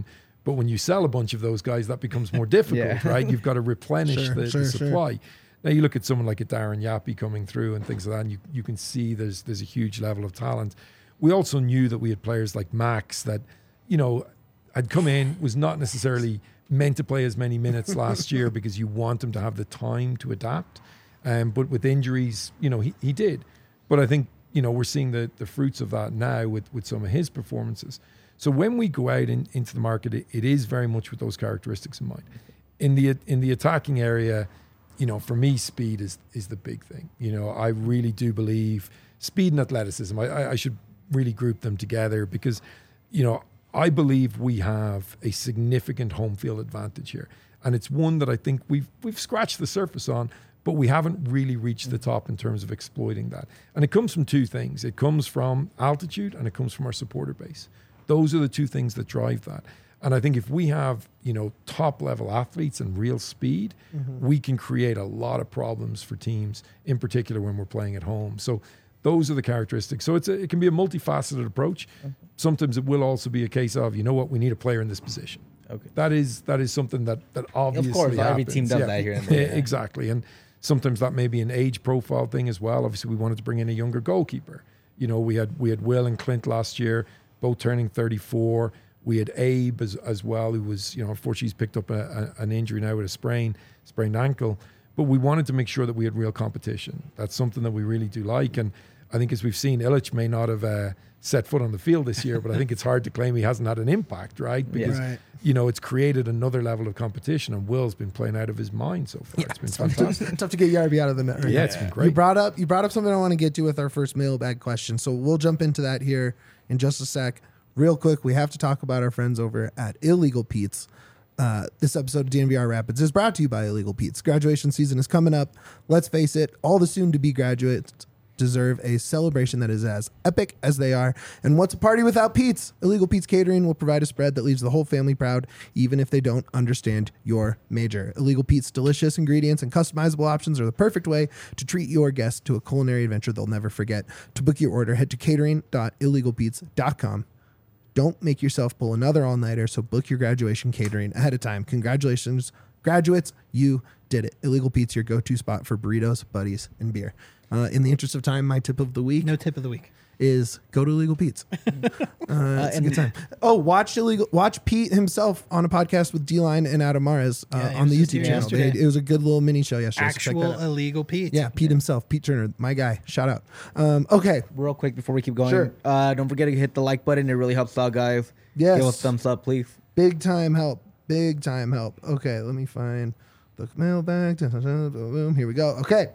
But when you sell a bunch of those guys, that becomes more difficult, Yeah. right? You've got to replenish Sure, the, sure, the sure. supply. Now you look at someone like a Darren Yappy coming through and things like that, and you, you can see there's there's a huge level of talent. We also knew that we had players like Max that, you know, had come in, was not necessarily meant to play as many minutes last year because you want him to have the time to adapt. Um, but with injuries, you know, he, he did. But I think, you know, we're seeing the, the fruits of that now with, with some of his performances. So when we go out in, into the market, it, it is very much with those characteristics in mind. In the in the attacking area, you know, for me, speed is is the big thing. You know, I really do believe speed and athleticism. I, I, I should really group them together because, you know, I believe we have a significant home field advantage here, and it's one that I think we've we've scratched the surface on, but we haven't really reached the top in terms of exploiting that. And it comes from two things. It comes from altitude and it comes from our supporter base. Those are the two things that drive that. And I think if we have, you know, top level athletes and real speed, mm-hmm. we can create a lot of problems for teams, in particular when we're playing at home. So those are the characteristics. So it's a, it can be a multifaceted approach. Mm-hmm. Sometimes it will also be a case of, you know what, we need a player in this position. Okay. That is that is something that, that obviously Of course, happens. every team does yeah. that here and there. Yeah, exactly. And sometimes that may be an age profile thing as well. Obviously, we wanted to bring in a younger goalkeeper. You know, we had we had Will and Clint last year, both turning thirty-four. We had Abe as, as well, who was, you know, unfortunately he's picked up a, a, an injury now with a sprain, sprained ankle. But we wanted to make sure that we had real competition. That's something that we really do like. And I think as we've seen, Illich may not have uh, set foot on the field this year, but I think it's hard to claim he hasn't had an impact, right? Because, Right. you know, it's created another level of competition, and Will's been playing out of his mind so far. Yeah, It's been it's tough, fantastic. to, tough to get Yarby out of the net. Right Yeah, now. it's been You great. brought up you brought up something I want to get to with our first mailbag question. So we'll jump into that here in just a sec. Real quick, we have to talk about our friends over at Illegal Pete's. Uh, this episode of D N V R Rapids is brought to you by Illegal Pete's. Graduation season is coming up. Let's face it, all the soon-to-be graduates deserve a celebration that is as epic as they are. And what's a party without Pete's? Illegal Pete's Catering will provide a spread that leaves the whole family proud, even if they don't understand your major. Illegal Pete's delicious ingredients and customizable options are the perfect way to treat your guests to a culinary adventure they'll never forget. To book your order, head to catering dot illegal pete's dot com. Don't make yourself pull another all-nighter, so book your graduation catering ahead of time. Congratulations, graduates, you did it. Illegal Pete's, your go-to spot for burritos, buddies, and beer. Uh, in the interest of time, my tip of the week No tip of the week. is go to Illegal Pete's. Uh, it's a and- good time. Oh, watch illegal. Watch Pete himself on a podcast with D-Line and Adam Mares uh, Yeah, it on the was just YouTube channel. They, yesterday. it was a good little mini show yesterday. so check that Actual out. illegal Pete. Yeah, Pete himself, Pete Turner, my guy. Shout out. Um, okay, Real quick before we keep going, Sure. uh, don't forget to hit the like button. It really helps out, guys. Yes. Give us a thumbs up, please. big time help. Big time help. Okay, let me find the mailbag. Dun, dun, dun, boom, boom. Here we go. Okay.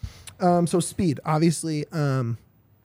Um, so speed, obviously, um,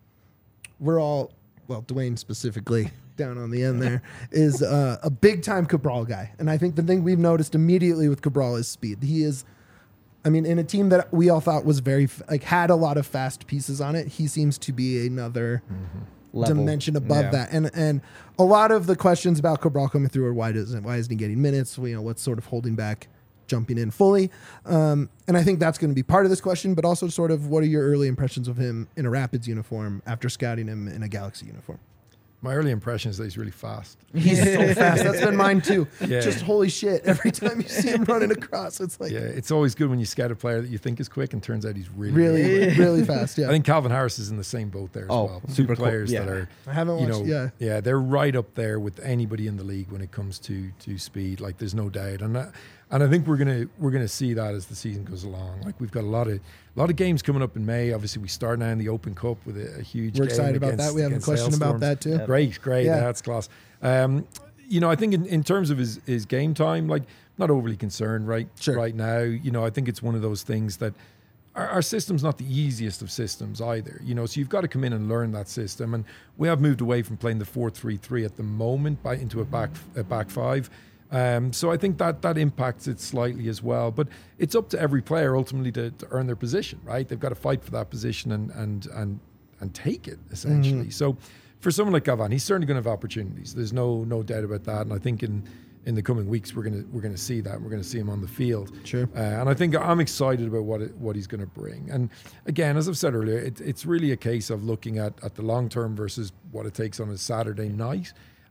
we're all, well, Dwayne specifically down on the end there is uh, a big time Cabral guy. And I think the thing we've noticed immediately with Cabral is speed. He is, I mean, in a team that we all thought was very, f- like had a lot of fast pieces on it, he seems to be another Level. dimension above Yeah. that. And and a lot of the questions about Cabral coming through are why doesn't why isn't he getting minutes? You know, what's sort of holding back jumping in fully? Um, and I think that's going to be part of this question, but also sort of what are your early impressions of him in a Rapids uniform after scouting him in a Galaxy uniform? My early impression is that he's really fast. He's so fast. That's been mine too. Yeah. Just holy shit. Every time you see him running across, it's like Yeah, it's always good when you scout a player that you think is quick and turns out he's really, really, really fast. Yeah. I think Calvin Harris is in the same boat there as Oh, well. Two super cool. players Yeah. that are, I haven't you watched- know, yeah. they're right up there with anybody in the league when it comes to to speed. Like, there's no doubt, and that, and I think we're gonna we're gonna see that as the season goes along. Like, we've got a lot of a lot of games coming up in May. Obviously, we start now in the Open Cup with a, a huge. We're game excited about against- that. We have a against question about Hailstorms. that too. Great, great. Yeah. That's class. Um, you know, I think in, in terms of his, his game time, like, not overly concerned right Sure. right now. You know, I think it's one of those things that our, our system's not the easiest of systems either. You know, so you've got to come in and learn that system. And we have moved away from playing the four three three at the moment by into a back a back five. Um, so I think that that impacts it slightly as well. But it's up to every player ultimately to, to earn their position, right? They've got to fight for that position and and and and take it essentially. So for someone like Gavan, he's certainly going to have opportunities. There's no no doubt about that. And I think in in the coming weeks we're gonna we're gonna see that. We're gonna see him on the field. Sure. Uh, and I think I'm excited about what it, what he's going to bring. And again, as I've said earlier, it, it's really a case of looking at at the long term versus what it takes on a Saturday night.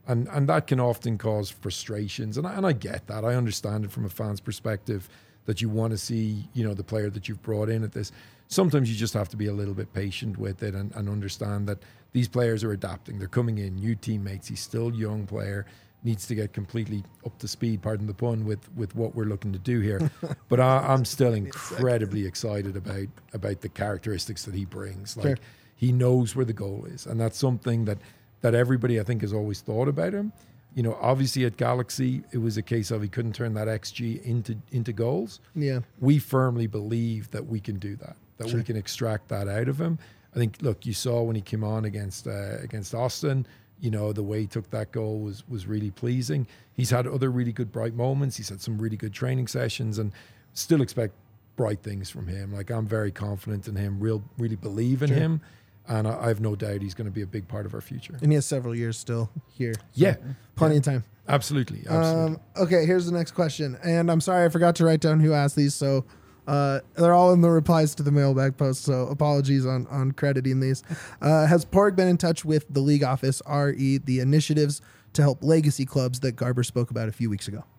And and that can often cause frustrations. And I, and I get that. I understand it from a fan's perspective that you want to see, you know, the player that you've brought in at this. Sometimes you just have to be a little bit patient with it and, and understand that these players are adapting. They're coming in, new teammates. He's still a young player, needs to get completely up to speed, pardon the pun, with, with what we're looking to do here. But I, I'm still incredibly excited about, about the characteristics that he brings. Like, Sure. he knows where the goal is. And that's something that, that everybody, I think, has always thought about him. You know, obviously at Galaxy, it was a case of he couldn't turn that X G into into goals. Yeah. We firmly believe that we can do that, that Sure. we can extract that out of him. I think, look, you saw when he came on against uh, against Austin, you know, the way he took that goal was was really pleasing. He's had other really good bright moments. He's had some really good training sessions, and still expect bright things from him. Like, I'm very confident in him, real really believe in Sure. him. And I I have no doubt he's going to be a big part of our future. And he has several years still here. So Yeah, Plenty of time. absolutely, absolutely. Um, okay, here's the next question. And I'm sorry I forgot to write down who asked these, so uh, they're all in the replies to the mailbag post, so apologies on, on crediting these. Uh, has Porg been in touch with the league office, R E, the initiatives to help legacy clubs that Garber spoke about a few weeks ago?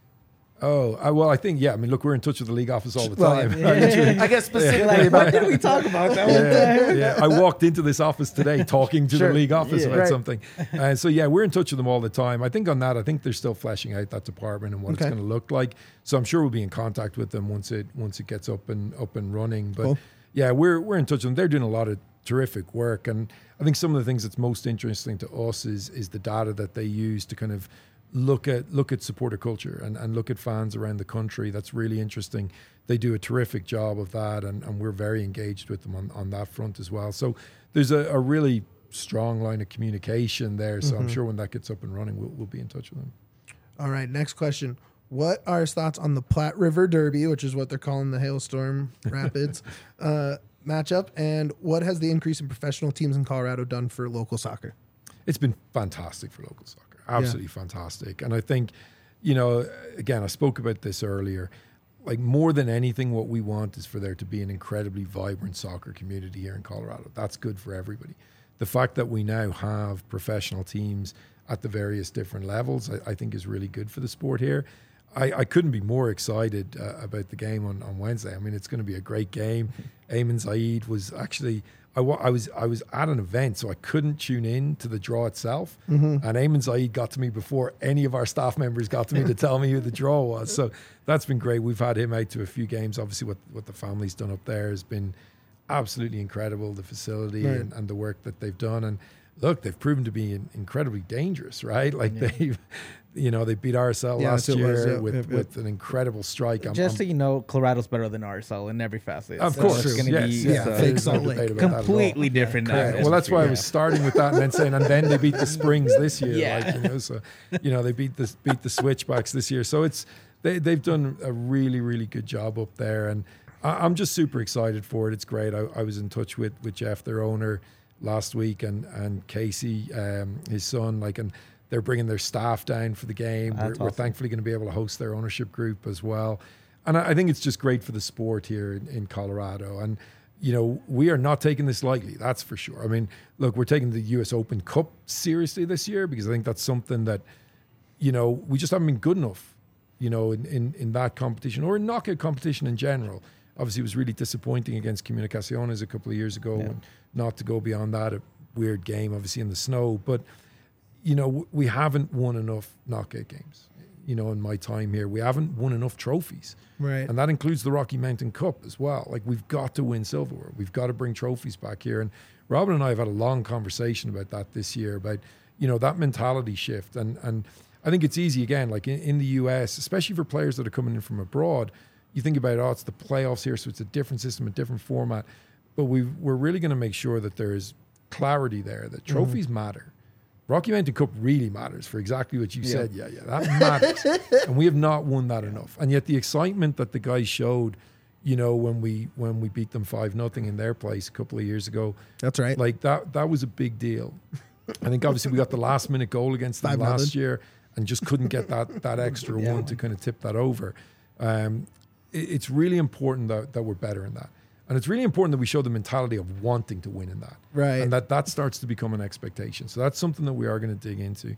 Oh, I, well, I think, yeah. I mean, look, we're in touch with the league office all the Well, time. I guess specifically Like, about what did we talk about that one yeah, time? yeah. I walked into this office today talking to Sure. the league office Yeah. about Right. something. And so, yeah, we're in touch with them all the time. I think on that, I think they're still fleshing out that department and what Okay. it's going to look like. So I'm sure we'll be in contact with them once it once it gets up and up and running. But Cool. yeah, we're we're in touch with them. They're doing a lot of terrific work. And I think some of the things that's most interesting to us is is the data that they use to kind of look at look at supporter culture and, and look at fans around the country. That's really interesting. They do a terrific job of that, and, and we're very engaged with them on, on that front as well. So there's a, a really strong line of communication there. So I'm sure when that gets up and running, we'll, we'll be in touch with them. All right, next question. What are his thoughts on the Platte River Derby, which is what they're calling the Hailstorm Rapids uh, matchup? And what has the increase in professional teams in Colorado done for local soccer? It's been fantastic for local soccer. Absolutely fantastic. And I think, you know, again, I spoke about this earlier. Like, more than anything, what we want is for there to be an incredibly vibrant soccer community here in Colorado. That's good for everybody. The fact that we now have professional teams at the various different levels, I, I think is really good for the sport here. I, I couldn't be more excited uh, about the game on, on Wednesday. I mean, it's going to be a great game. Eamon Zaid was actually... I, wa- I was I was at an event, so I couldn't tune in to the draw itself. Mm-hmm. And Eamon Zaid got to me before any of our staff members got to me to tell me who the draw was. So that's been great. We've had him out to a few games. Obviously, what, what the family's done up there has been absolutely incredible, the facility Right. and, and the work that they've done. And look, they've proven to be in, incredibly dangerous, right? Like, Yeah. they've, you know, they beat R S L Yeah, last so it year was, yeah, with, yep, yep. with an incredible strike. I'm, Just I'm- so you know, Colorado's better than R S L in every facet. Of So course, it's going to yes, be yes, Yeah, so fake there's no Salt Lake. debate about that at all. completely different. Yeah, atmosphere. well, that's why I Yeah. was starting with that and then saying, and then they beat the Springs this year. Yeah. Like, you know, so, you know, they beat the, beat the Switchbacks this year. So it's, they, they've done a really, really good job up there. And I, I'm just super excited for it. It's great. I, I was in touch with, with Jeff, their owner, last week, and, and Casey, um, his son, like, and they're bringing their staff down for the game. We're, That's we're awesome. thankfully going to be able to host their ownership group as well. And I, I think it's just great for the sport here in, in Colorado. And, you know, we are not taking this lightly, that's for sure. I mean, look, we're taking the U S Open Cup seriously this year because I think that's something that, you know, we just haven't been good enough, you know, in, in, in that competition or in knockout competition in general. Obviously, it was really disappointing against Comunicaciones a couple of years ago, Yeah. and not to go beyond that, a weird game, obviously, in the snow. But, you know, w- we haven't won enough knockout games, you know, in my time here. We haven't won enough trophies. Right. And that includes the Rocky Mountain Cup as well. Like, we've got to win silverware. We've got to bring trophies back here. And Robin and I have had a long conversation about that this year, about, you know, that mentality shift. And and I think it's easy, again, like in, in the U S, especially for players that are coming in from abroad, you think about, oh, it's the playoffs here, so it's a different system, a different format. But we we're really going to make sure that there's clarity there, that trophies matter. Rocky Mountain Cup really matters for exactly what you Yeah. said. Yeah, yeah, that matters. And we have not won that enough. And yet the excitement that the guys showed, you know, when we when we beat them five nothing in their place a couple of years ago, That's right. like that that was a big deal. I think obviously we got the last minute goal against them Five last nothing. year and just couldn't get that that extra Yeah. one to kind of tip that over. Um, it, it's really important that, that we're better in that. And it's really important that we show the mentality of wanting to win in that. Right. And that that starts to become an expectation. So that's something that we are going to dig into.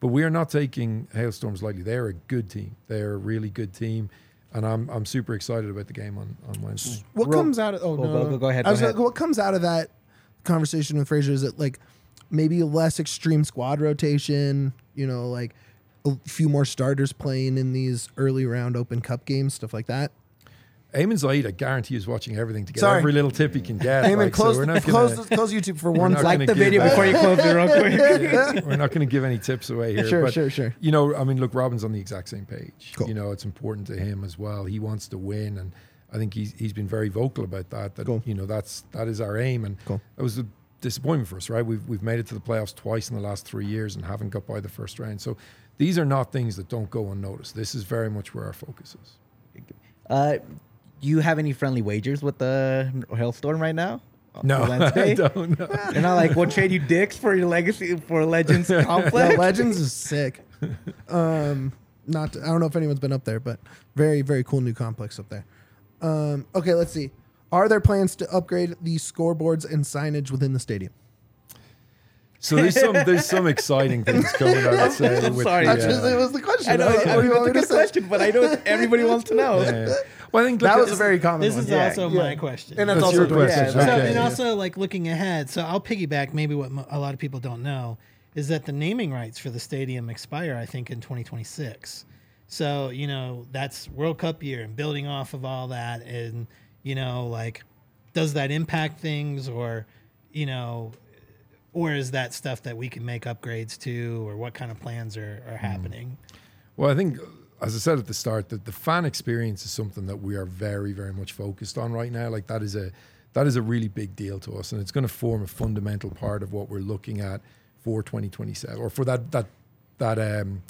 But we are not taking Hailstorms lightly. They're a good team. They're a really good team. And I'm I'm super excited about the game on, on Wednesday. What Real- comes out of oh Go- no, go- no. go- go ahead, I go was ahead. like, what comes out of that conversation with Fraser is it like maybe less extreme squad rotation, you know, like a few more starters playing in these early round Open Cup games, stuff like that. Eamon Zaid, I guarantee, is watching everything to get Sorry. every little tip he can get. Eamon, like, so close, we're not close, gonna- close YouTube for one not second. Like gonna the give video that- before you close it real quick. We're not going to give any tips away here. Sure, but, sure, sure. You know, I mean, look, Robin's on the exact same page. Cool. You know, it's important to him as well. He wants to win, and I think he's he's been very vocal about that. That Cool. you know, that's that is our aim, and Cool. that was a disappointment for us, right? We've we've made it to the playoffs twice in the last three years and haven't got by the first round. So these are not things that don't go unnoticed. This is very much where our focus is. Uh, do you have any friendly wagers with the Hailstorm right now? No, For Wednesday? I don't know. They're not like, we'll trade you dicks for your legacy for Legends No, complex. Legends is sick. Um, not I don't know if anyone's been up there, but very very cool new complex up there. Um, okay, let's see. Are there plans to upgrade the scoreboards and signage within the stadium? So there's some there's some exciting things coming. I would say. I'm with sorry. the, That's just, uh, it was the question. I know, What I do mean, you want that's me a to good say? question, but I know everybody wants to know. yeah. Well, I think That look, was a very common This one. is Yeah. also Yeah. my question. And that's, That's also your question. Yeah, So, Okay. and also, like looking ahead, so I'll piggyback maybe what mo- a lot of people don't know is that the naming rights for the stadium expire, I think, in twenty twenty-six. So, you know, that's World Cup year and building off of all that. And, you know, like, does that impact things or, you know, or is that stuff that we can make upgrades to or what kind of plans are, are happening? Well, I think, as I said at the start, that the fan experience is something that we are very, very much focused on right now. Like that is a that is a really big deal to us, and it's going to form a fundamental part of what we're looking at for twenty twenty-seven, or for that that that um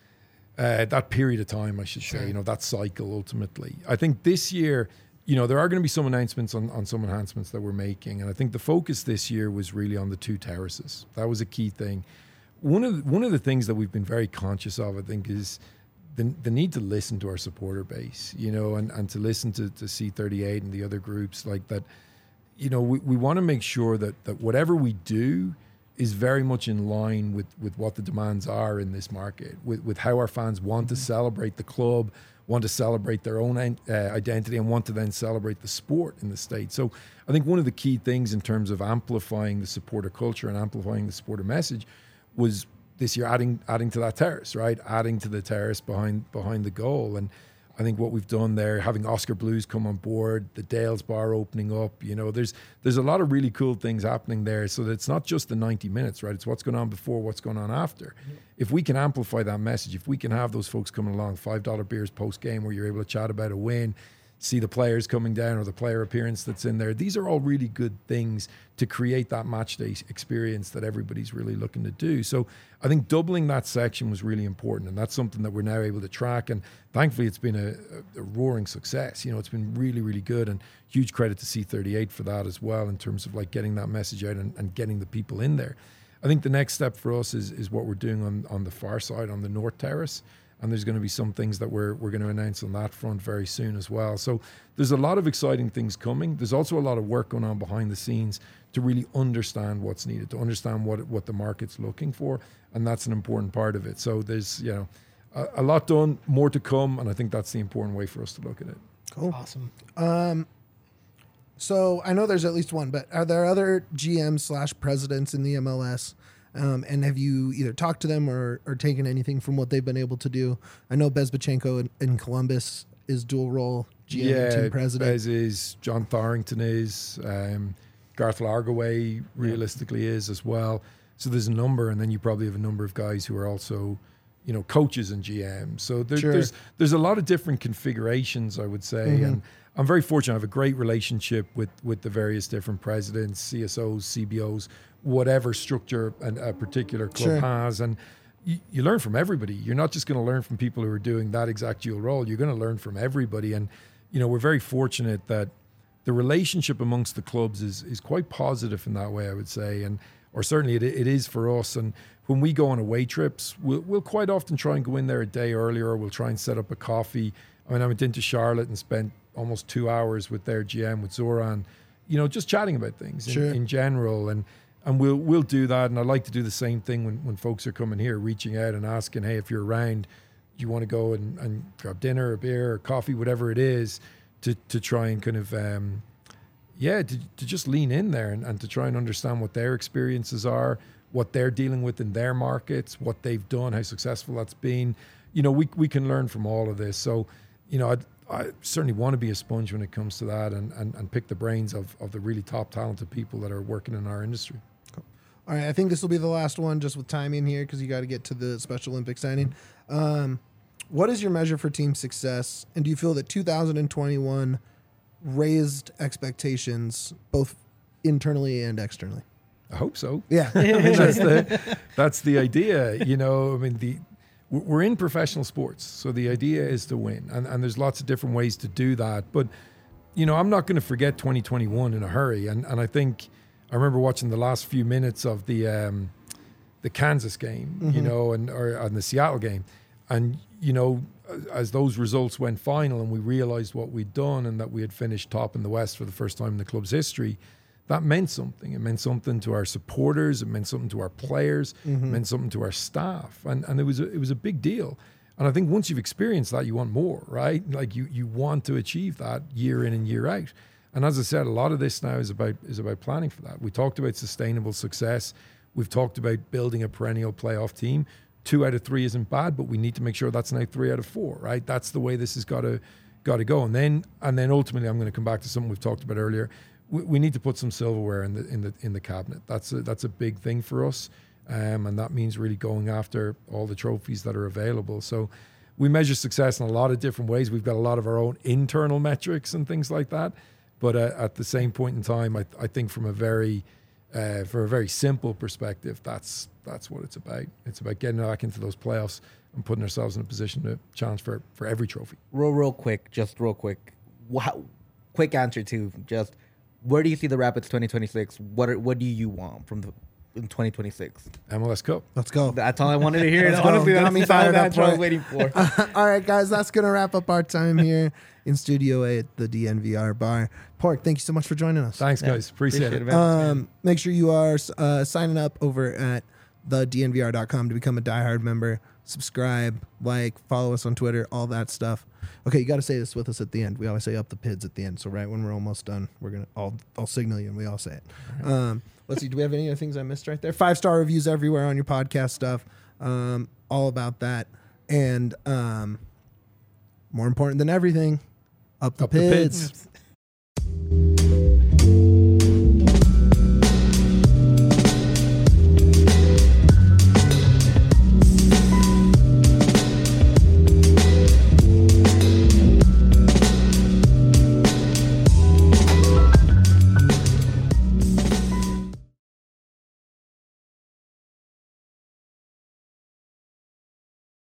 uh, that period of time, I should say. You know, that cycle ultimately. I think this year, you know, there are going to be some announcements on, on some enhancements that we're making, and I think the focus this year was really on the two terraces. That was a key thing. One of the, one of the things that we've been very conscious of, I think, is the, the need to listen to our supporter base, you know, and, and to listen to, to C thirty-eight and the other groups like that. You know, we, we want to make sure that, that whatever we do is very much in line with, with what the demands are in this market, with, with how our fans want to celebrate the club, want to celebrate their own uh, identity, and want to then celebrate the sport in the state. So I think one of the key things in terms of amplifying the supporter culture and amplifying the supporter message was this year adding adding to that terrace, right? Adding to the terrace behind behind the goal. And I think what we've done there, having Oscar Blues come on board, the Dales Bar opening up, you know, there's there's a lot of really cool things happening there. So that it's not just the ninety minutes, right? It's what's going on before, what's going on after. If we can amplify that message, if we can have those folks coming along, five dollar beers post-game where you're able to chat about a win, see the players coming down or the player appearance that's in there. These are all really good things to create that match day experience that everybody's really looking to do. So I think doubling that section was really important, and that's something that we're now able to track. And thankfully, it's been a, a roaring success. You know, it's been really, really good, and huge credit to C thirty-eight for that as well in terms of like getting that message out and, and getting the people in there. I think the next step for us is is what we're doing on on the far side, on the North Terrace. And there's going to be some things that we're we're going to announce on that front very soon as well. So there's a lot of exciting things coming. There's also a lot of work going on behind the scenes to really understand what's needed, to understand what what the market's looking for, and that's an important part of it. So there's you know a, a lot done, more to come, and I think that's the important way for us to look at it. Cool. Awesome. So I know there's at least one, but are there other G Ms slash presidents in the M L S? Um, and have you either talked to them or, or taken anything from what they've been able to do? I know Bezbachenko in, in Columbus is dual role G M and team president. Bez is, John Thorrington is, um, Garth Largaway realistically is as well. So there's a number, and then you probably have a number of guys who are also, you know, coaches and G Ms. So there, Sure. there's there's a lot of different configurations, I would say, Mm-hmm. and I'm very fortunate. I have a great relationship with with the various different presidents, C S Os, C B Os, whatever structure an, a particular club Sure. has, and you, you learn from everybody. You're not just going to learn from people who are doing that exact dual role. You're going to learn from everybody, and you know we're very fortunate that the relationship amongst the clubs is is quite positive in that way, I would say, and or certainly it, it is for us. And when we go on away trips, we'll, we'll quite often try and go in there a day earlier, or we'll try and set up a coffee. I mean, I went into Charlotte and spent almost two hours with their G M, with Zoran, you know, just chatting about things Sure. in, in general. And and we'll we'll do that. And I like to do the same thing when, when folks are coming here, reaching out and asking, hey, if you're around, you want to go and, and grab dinner or beer or coffee, whatever it is, to to try and kind of um, yeah, to, to just lean in there and, and to try and understand what their experiences are, what they're dealing with in their markets, what they've done, how successful that's been. You know, we we can learn from all of this. So, you know, I'd, I certainly want to be a sponge when it comes to that, and, and, and pick the brains of, of the really top talented people that are working in our industry. Cool. All right, I think this will be the last one, just with timing here, because you got to get to the Special Olympics signing. Um, what is your measure for team success, and do you feel that two thousand twenty-one raised expectations both internally and externally? I hope so. Yeah, I mean, that's the that's the idea. You know, I mean, the we're in professional sports, so the idea is to win, and and there's lots of different ways to do that. But you know, I'm not going to forget twenty twenty-one in a hurry, and and I think I remember watching the last few minutes of the um, the Kansas game, mm-hmm. you know, and or and the Seattle game, and you know, as those results went final, and we realized what we'd done, and that we had finished top in the West for the first time in the club's history. That meant something. It meant something to our supporters. It meant something to our players. Mm-hmm. It meant something to our staff, and and it was a, it was a big deal. And I think once you've experienced that, you want more, right? Like you you want to achieve that year in and year out. And as I said, a lot of this now is about is about planning for that. We talked about sustainable success. We've talked about building a perennial playoff team. Two out of three isn't bad, but we need to make sure that's now three out of four, right? That's the way this has got to got to go. And then and then ultimately, I'm going to come back to something we've talked about earlier. We need to put some silverware in the in the in the cabinet. That's a, that's a big thing for us, um, and that means really going after all the trophies that are available. So we measure success in a lot of different ways. We've got a lot of our own internal metrics and things like that. But uh, at the same point in time, I, I think from a very uh, for a very simple perspective, that's that's what it's about. It's about getting back into those playoffs and putting ourselves in a position to challenge for for every trophy. Real, real quick, just real quick. Wow, quick answer to just. Where do you see the Rapids twenty twenty-six? What are, what do you want from the in twenty twenty-six? M L S Cup. Let's go. That's all I wanted to hear. Let's Honestly, go. that's Got me the fired up answer I for was it. waiting for. Uh, all right, guys, that's going to wrap up our time here in Studio A at the D N V R bar. Pork, thank you so much for joining us. Thanks, guys. Yeah, Appreciate, appreciate it. it, man. Um, make sure you are uh, signing up over at the D N V R dot com to become a diehard member. Subscribe, like, follow us on Twitter, all that stuff. Okay, you got to say this with us at the end. We always say up the pids at the end. So right when we're almost done, we're gonna I'll I'll signal you and we all say it. Right. Um, let's see. Do we have any other things I missed right there? Five star reviews everywhere on your podcast stuff. Um, all about that, and um, more important than everything, up the Up the pids. pids.